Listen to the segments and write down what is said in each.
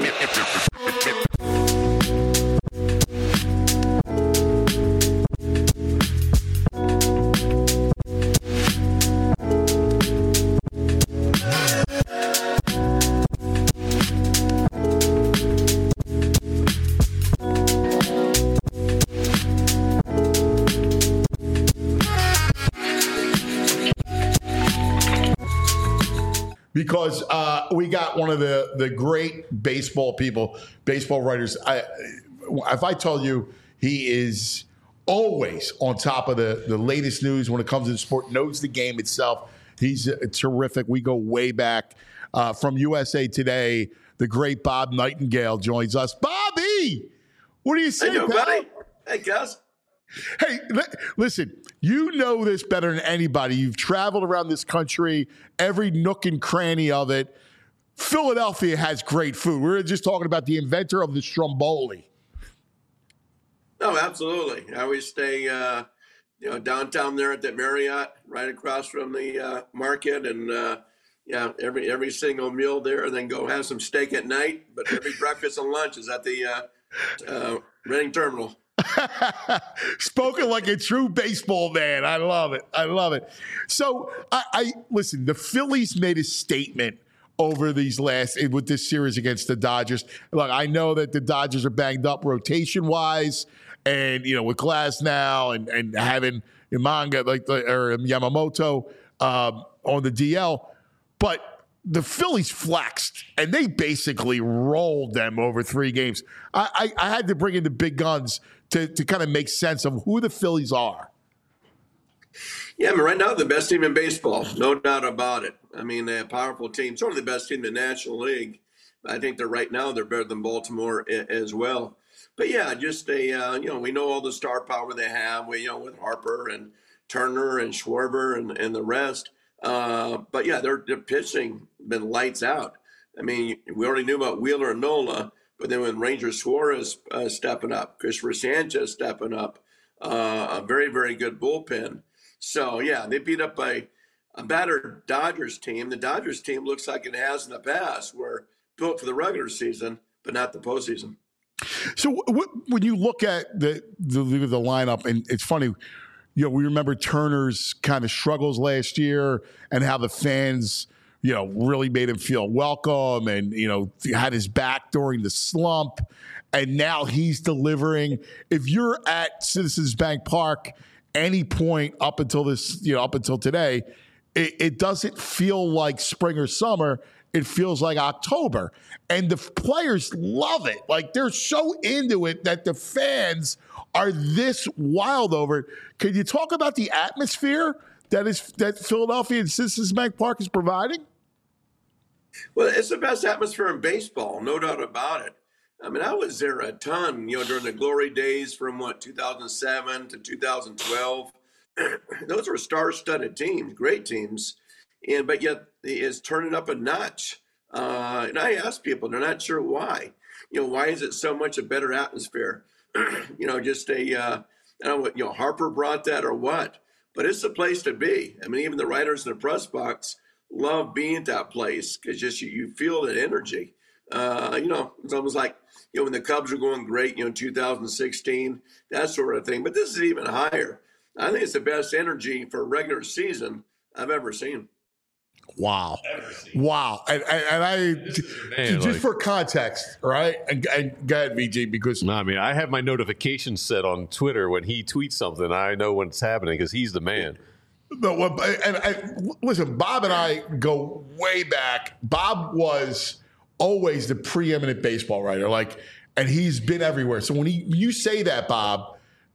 Because we got one of the great baseball people, baseball writers. If I tell you he is always on top of the latest news when it comes to the sport, knows the game itself. He's terrific. We go way back. From USA Today, the great Bob Nightingale joins us. Bobby, what do you say, pal? Buddy. Hey, Gus. Hey, listen, you know this better than anybody. You've traveled around this country, every nook and cranny of it. Philadelphia has great food. We were just talking about the inventor of the Stromboli. No, absolutely. I always stay, downtown there at the Marriott, right across from the market, and every single meal there. And then go have some steak at night. But every breakfast and lunch is at the Reading Terminal. Spoken like a true baseball man. I love it. I love it. So I listen, the Phillies made a statement over these with this series against the Dodgers. Look, I know that the Dodgers are banged up rotation wise, and with Glasnow and having Imanga or Yamamoto on the DL, but the Phillies flexed, and they basically rolled them over 3 games. I had to bring in the big guns to kind of make sense of who the Phillies are. Yeah, I mean, right now, the best team in baseball, no doubt about it. I mean, they're a powerful team, certainly the best team in the National League. I think they're better than Baltimore as well. But yeah, just we know all the star power they have, with Harper and Turner and Schwarber and the rest. But yeah, their pitching been lights out. I mean, we already knew about Wheeler and Nola, but then when Ranger Suarez stepping up, Christopher Sanchez stepping up, a very, very good bullpen. So yeah, they beat up a battered Dodgers team. The Dodgers team looks like it has in the past, were built for the regular season, but not the postseason. So when you look at the lineup, and it's funny, we remember Turner's kind of struggles last year and how the fans, really made him feel welcome and, had his back during the slump. And now he's delivering. If you're at Citizens Bank Park any point up until today, it doesn't feel like spring or summer. It feels like October. And the players love it. Like, they're so into it that the fans are this wild over it. Can you talk about the atmosphere that Philadelphia and Citizens Bank Park is providing? Well, it's the best atmosphere in baseball, no doubt about it. I mean, I was there a ton, during the glory days from 2007 to 2012. Those were star-studded teams, great teams. But yet it's turning up a notch. And I ask people, they're not sure why. Why is it so much a better atmosphere? I don't know what, Harper brought that or what, but it's the place to be. I mean, even the writers in the press box love being at that place because just you feel that energy. It's almost like, when the Cubs were going great, 2016, that sort of thing. But this is even higher. I think it's the best energy for a regular season I've ever seen. Wow. And I just for context, right? And go ahead, VG, because no, I mean, I have my notifications set on Twitter. When he tweets something, I know when it's happening because he's the man. No, listen, Bob and I go way back. Bob was always the preeminent baseball writer, and he's been everywhere. So when you say that, Bob,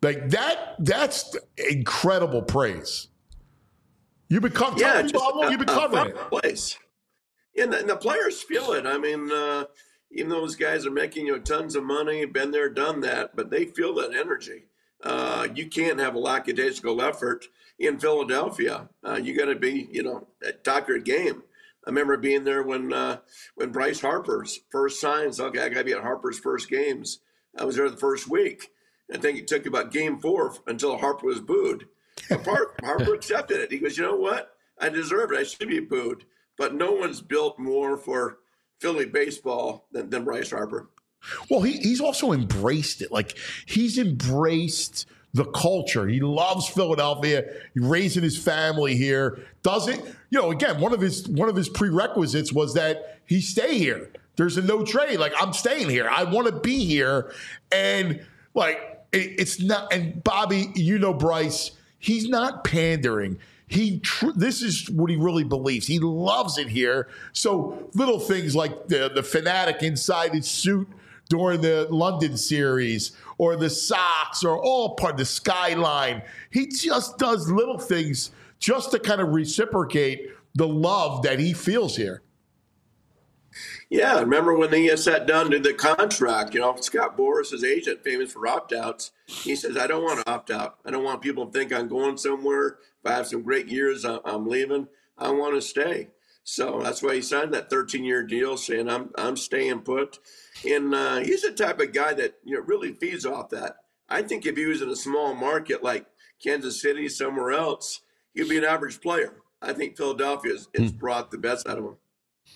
that's incredible praise. You've been covering it. Place. And the players feel it. I mean, even though those guys are making tons of money, been there, done that, but they feel that energy. You can't have a lackadaisical effort in Philadelphia. You got to be, at top of your game. I remember being there when Bryce Harper's first signs. Okay, I got to be at Harper's first games. I was there the first week. I think it took about game 4 until Harper was booed. Harper accepted it. He goes, you know what? I deserve it. I should be booed. But no one's built more for Philly baseball than Bryce Harper. Well, he's also embraced it. Like, he's embraced the culture. He loves Philadelphia. He's raising his family here. Doesn't, again, one of his prerequisites was that he stay here. There's a no trade. Like, I'm staying here. I want to be here. And it's not, and Bobby, Bryce, he's not pandering. This is what he really believes. He loves it here. So little things like the fanatic inside his suit during the London series, or the socks, or all part of the skyline. He just does little things just to kind of reciprocate the love that he feels here. Yeah, remember when he sat down to the contract, Scott Boras, his agent, famous for opt-outs, he says, I don't want to opt out. I don't want people to think I'm going somewhere. If I have some great years, I'm leaving. I want to stay. So that's why he signed that 13-year deal, saying I'm staying put. And he's the type of guy that really feeds off that. I think if he was in a small market like Kansas City, somewhere else, he'd be an average player. I think Philadelphia has brought the best out of him.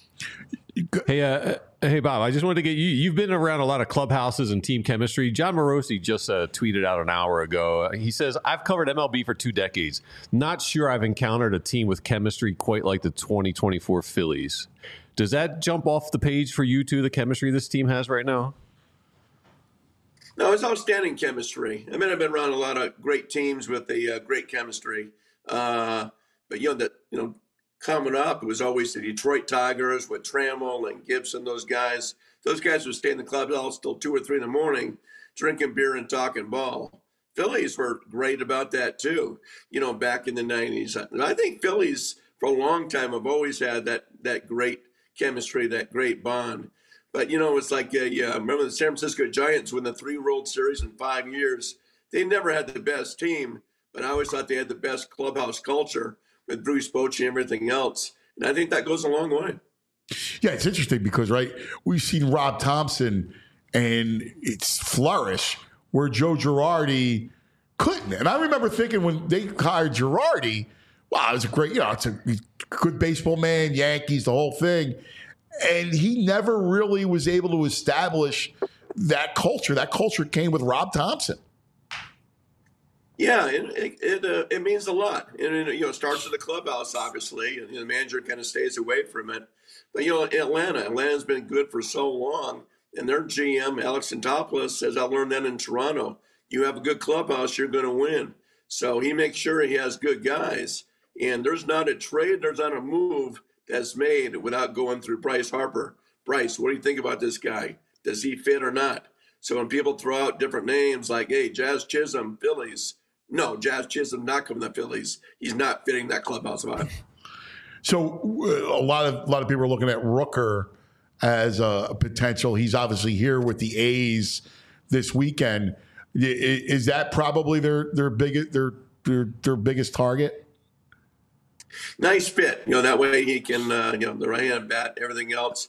Hey, Bob, I just wanted to get you. You've been around a lot of clubhouses and team chemistry. John Morosi just tweeted out an hour ago. He says, I've covered MLB for 2 decades. Not sure I've encountered a team with chemistry quite like the 2024 Phillies. Does that jump off the page for you two, the chemistry this team has right now? No, it's outstanding chemistry. I mean, I've been around a lot of great teams with a great chemistry. But, coming up, it was always the Detroit Tigers with Trammell and Gibson, those guys. Those guys would stay in the clubhouse till 2 or 3 in the morning, drinking beer and talking ball. Phillies were great about that too, back in the 90s. I think Phillies, for a long time, have always had that great chemistry, that great bond. But, it's like, remember the San Francisco Giants win the 3 World Series in 5 years. They never had the best team, but I always thought they had the best clubhouse culture with Bruce Bochy and everything else. And I think that goes a long way. Yeah, it's interesting because, right, we've seen Rob Thompson and it's flourish where Joe Girardi couldn't. And I remember thinking when they hired Girardi, wow, it was a great, it's a good baseball man, Yankees, the whole thing. And he never really was able to establish that culture. That culture came with Rob Thompson. Yeah, it means a lot. And it starts in the clubhouse, obviously, and the manager kind of stays away from it. But Atlanta's been good for so long, and their GM, Alex Antopoulos, says, I learned that in Toronto. You have a good clubhouse, you're going to win. So he makes sure he has good guys. And there's not a trade, there's not a move that's made without going through Bryce Harper. Bryce, what do you think about this guy? Does he fit or not? So when people throw out different names like, hey, Jazz Chisholm, Phillies. No, Jazz Chisholm not coming to the Phillies. He's not fitting that clubhouse vibe. So a lot of people are looking at Rooker as a potential. He's obviously here with the A's this weekend. Is that probably their biggest target? Nice fit. That way he can, the right-hand bat, everything else.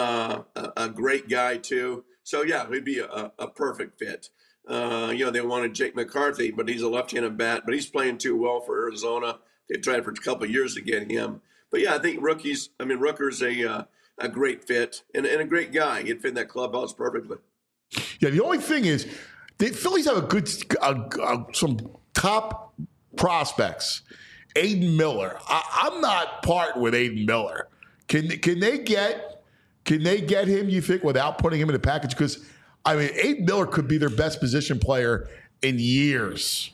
A great guy, too. So, yeah, he'd be a perfect fit. They wanted Jake McCarthy, but he's a left-handed bat, but he's playing too well for Arizona. They tried for a couple of years to get him. But, yeah, I think Rooker's a great fit and a great guy. He'd fit in that clubhouse perfectly. Yeah, the only thing is the Phillies have a good some top prospects. Aiden Miller. I'm not parting with Aiden Miller. Can they get him, you think, without putting him in a package? Because, Aiden Miller could be their best position player in years.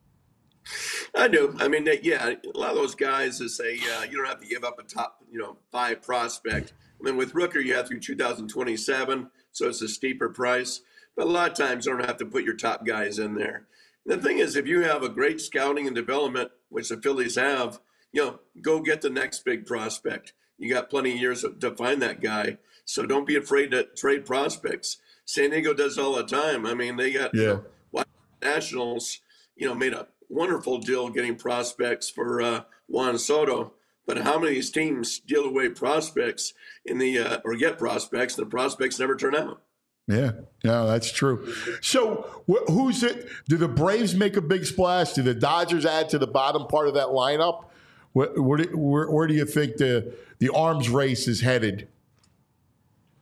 I do. A lot of those guys that say you don't have to give up a top, 5 prospect. With Rooker, you have through 2027, so it's a steeper price. But a lot of times you don't have to put your top guys in there. And the thing is, if you have a great scouting and development, which the Phillies have, go get the next big prospect. You got plenty of years to find that guy. So don't be afraid to trade prospects. San Diego does all the time. They got Nationals, made a wonderful deal getting prospects for Juan Soto. But how many of these teams deal away prospects or get prospects, and the prospects never turn out? Yeah, that's true. So who's it? Do the Braves make a big splash? Do the Dodgers add to the bottom part of that lineup? Where do you think the arms race is headed?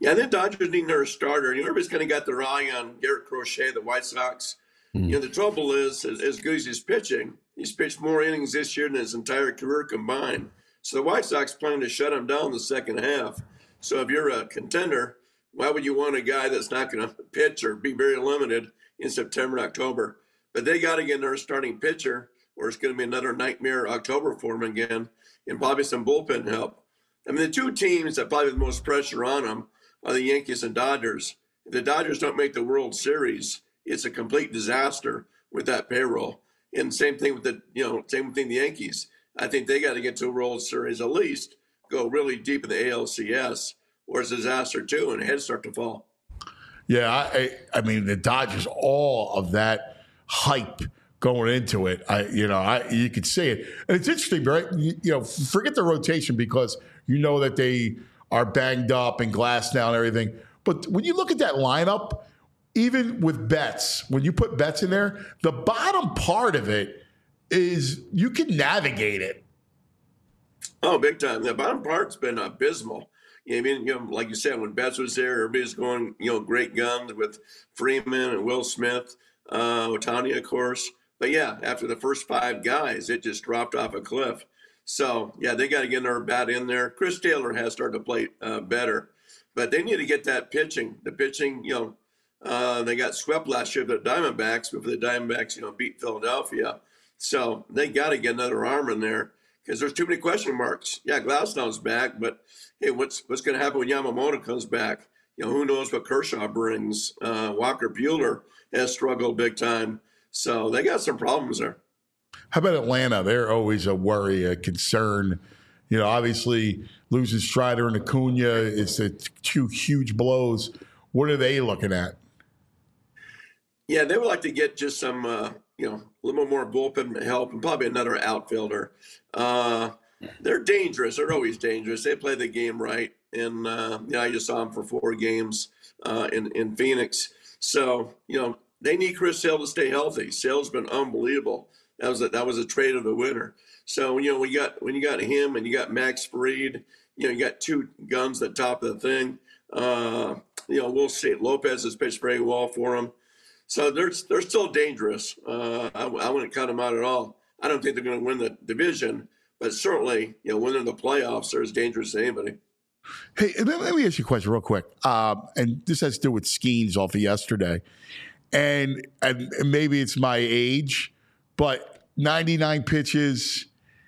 Yeah, I think Dodgers need another starter. And everybody's kind of got their eye on Garrett Crochet, the White Sox. The trouble is, as good as he's pitching, he's pitched more innings this year than his entire career combined. So the White Sox plan to shut him down in the second half. So if you're a contender, why would you want a guy that's not going to pitch or be very limited in September and October? But they got to get another starting pitcher, or it's going to be another nightmare October for him again, and probably some bullpen help. I mean, the two teams that probably have the most pressure on them are the Yankees and Dodgers. If the Dodgers don't make the World Series, it's a complete disaster with that payroll. And same thing with the Yankees. I think they got to get to a World Series at least, go really deep in the ALCS, or it's a disaster too, and heads start to fall. Yeah, I mean the Dodgers, all of that hype going into it. You could see it, and it's interesting, right? Forget the rotation because you know that they are banged up and glassed down and everything. But when you look at that lineup, even with Betts, when you put Betts in there, the bottom part of it is you can navigate it. Oh, big time. The bottom part's been abysmal. Like you said, when Betts was there, everybody's going, great guns with Freeman and Will Smith, Ohtani, of course. But yeah, after the first five guys, it just dropped off a cliff. So yeah, they got to get another bat in there. Chris Taylor has started to play better, but they need to get that pitching. The pitching, they got swept last year with the Diamondbacks before the Diamondbacks, beat Philadelphia. So they got to get another arm in there because there's too many question marks. Yeah, Glasnow's back, but hey, what's going to happen when Yamamoto comes back? Who knows what Kershaw brings? Walker Buehler has struggled big time. So they got some problems there. How about Atlanta? They're always a worry, a concern. Obviously losing Strider and Acuna is the two huge blows. What are they looking at? Yeah, they would like to get just some, a little more bullpen help and probably another outfielder. They're dangerous. They're always dangerous. They play the game right. And, I just saw them for 4 games in Phoenix. So, they need Chris Sale to stay healthy. Sale's been unbelievable. That was a trade of the winter. So, when you got him and you got Max Fried, you got two guns at the top of the thing. We'll see. Lopez has pitched very well for them. So they're still dangerous. I wouldn't cut them out at all. I don't think they're going to win the division, but certainly, winning the playoffs, they're as dangerous as anybody. Hey, let me ask you a question real quick. And this has to do with Skeens off of yesterday. And maybe it's my age, but 99 pitches,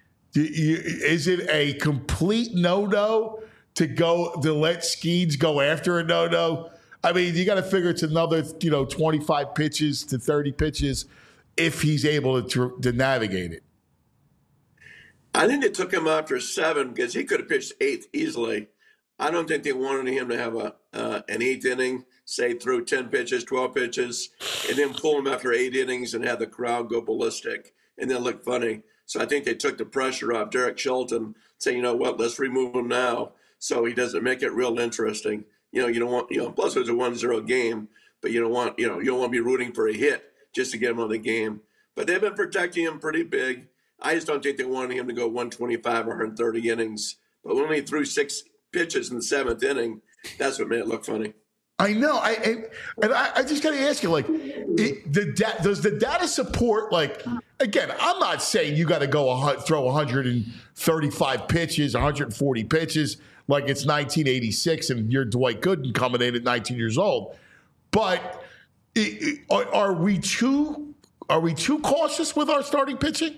is it a complete no-no to let Skeens go after a no-no? I mean, you got to figure it's another, 25 pitches to 30 pitches if he's able to navigate it. I think they took him after 7 because he could have pitched 8th easily. I don't think they wanted him to have an 8th inning, say through 10 pitches, 12 pitches, and then pull him after 8 innings and have the crowd go ballistic and then look funny. So I think they took the pressure off Derek Shelton, saying, let's remove him now so he doesn't make it real interesting. You don't want, plus it was a 1-0 game, but you don't want to be rooting for a hit just to get him on the game. But they've been protecting him pretty big. I just don't think they wanted him to go 125 or 130 innings. But when he threw 6 pitches in the 7th inning, that's what made it look funny. I know. I just got to ask you, does the data support, again, I'm not saying you got to go throw 135 pitches, 140 pitches, like it's 1986 and you're Dwight Gooden coming in at 19 years old. But are we too cautious with our starting pitching?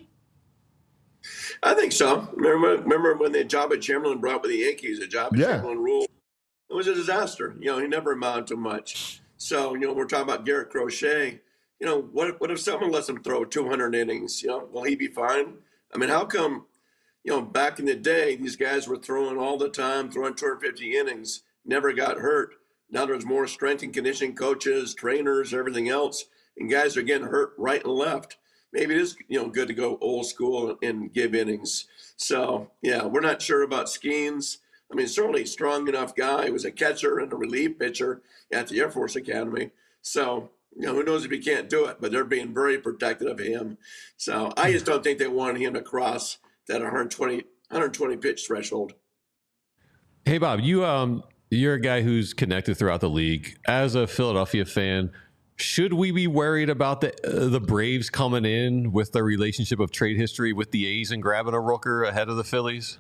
I think so. Remember when the Jabba Chamberlain brought with the Yankees, the Jabba Chamberlain rule? It was a disaster. He never amounted to much. So, we're talking about Garrett Crochet. What if someone lets him throw 200 innings? Will he be fine? I mean, how come, back in the day, these guys were throwing all the time, throwing 250 innings, never got hurt. Now there's more strength and conditioning coaches, trainers, everything else, and guys are getting hurt right and left. Maybe it is, good to go old school and give innings. So, yeah, we're not sure about Skeens. I mean, certainly a strong enough guy. He was a catcher and a relief pitcher at the Air Force Academy. So, who knows if he can't do it, but they're being very protective of him. So I just don't think they wanted him to cross that 120 pitch threshold. Hey, Bob, you You're a guy who's connected throughout the league. As a Philadelphia fan, should we be worried about the Braves coming in with their relationship of trade history with the A's and grabbing a Rooker ahead of the Phillies?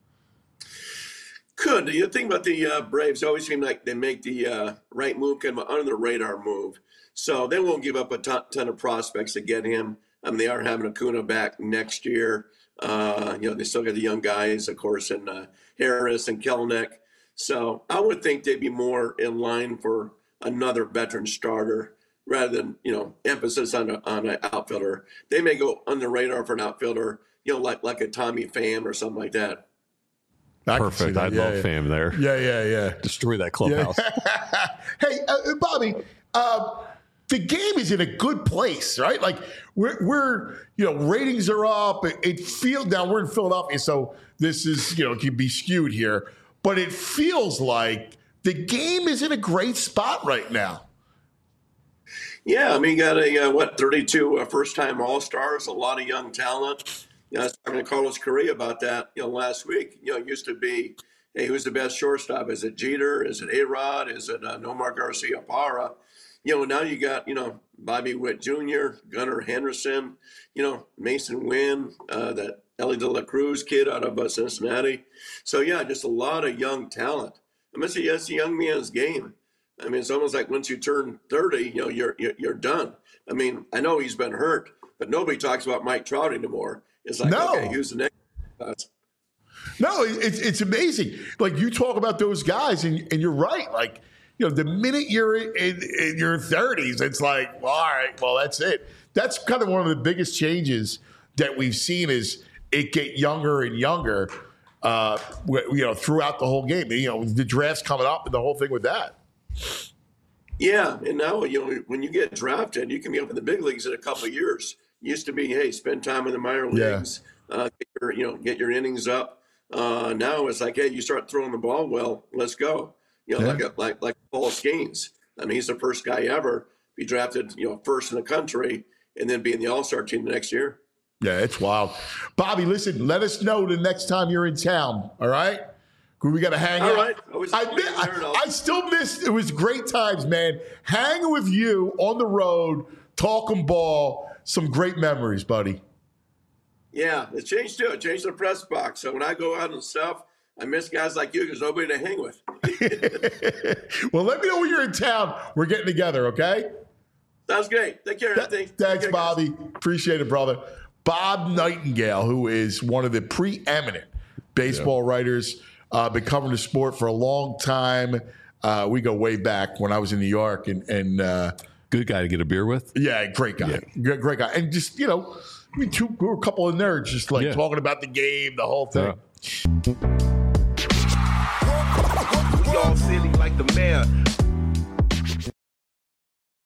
Could. You think about the Braves, always seem like they make the right move, kind of under the radar move. So they won't give up a ton of prospects to get him. They are having Acuna back next year. They still got the young guys, of course, and Harris and Kelenic. So I would think they'd be more in line for another veteran starter rather than, emphasis on an outfielder. They may go under the radar for an outfielder, like a Tommy Pham or something like that. Perfect. I'd love Pham there. Yeah. Destroy that clubhouse. Yeah. Hey, Bobby, the game is in a good place, right? Like we're ratings are up. It feels now we're in Philadelphia, so this is it can be skewed here, but it feels like the game is in a great spot right now. Yeah, you got 32 first-time All-Stars, a lot of young talent. I was talking to Carlos Correa about that, last week. It used to be, hey, who's the best shortstop? Is it Jeter? Is it A-Rod? Is it Nomar Garciaparra? Now you got, Bobby Witt Jr., Gunnar Henderson, Mason Wynn, that Ellie De La Cruz kid out of Cincinnati. So, yeah, just a lot of young talent. That's a young man's game. It's almost like once you turn 30, you're done. I know he's been hurt, but nobody talks about Mike Trout anymore. It's like, okay, who's the next? No, it's amazing. Like you talk about those guys, and you're right. Like, the minute you're in your 30s, it's like, well, all right, well, that's it. That's kind of one of the biggest changes that we've seen is it get younger and younger, throughout the whole game. The draft's coming up and the whole thing with that. Yeah, and now, when you get drafted, you can be up in the big leagues in a couple of years. Used to be, hey, spend time in the minor leagues, get your innings up. Now it's like, hey, you start throwing the ball well, let's go. Like Paul Skeens. He's the first guy ever be drafted, first in the country, and then be in the All-Star team the next year. Yeah, it's wild. Bobby, listen, let us know the next time you're in town. All right. We got to hang out. All right. I still missed. It was great times, man. Hanging with you on the road, talking ball. Some great memories, buddy. Yeah, it changed too. It changed the press box. So when I go out and stuff, I miss guys like you. There's nobody to hang with. Well, let me know when you're in town. We're getting together, okay? Sounds great. Take care, Anthony. Thanks, Bobby. Appreciate it, brother. Bob Nightingale, who is one of the preeminent baseball writers, been covering the sport for a long time. We go way back when I was in New York, and good guy to get a beer with. Yeah, great guy. Yeah. Great guy. And just, we were a couple of nerds just talking about the game, the whole thing. We all silly like the mayor.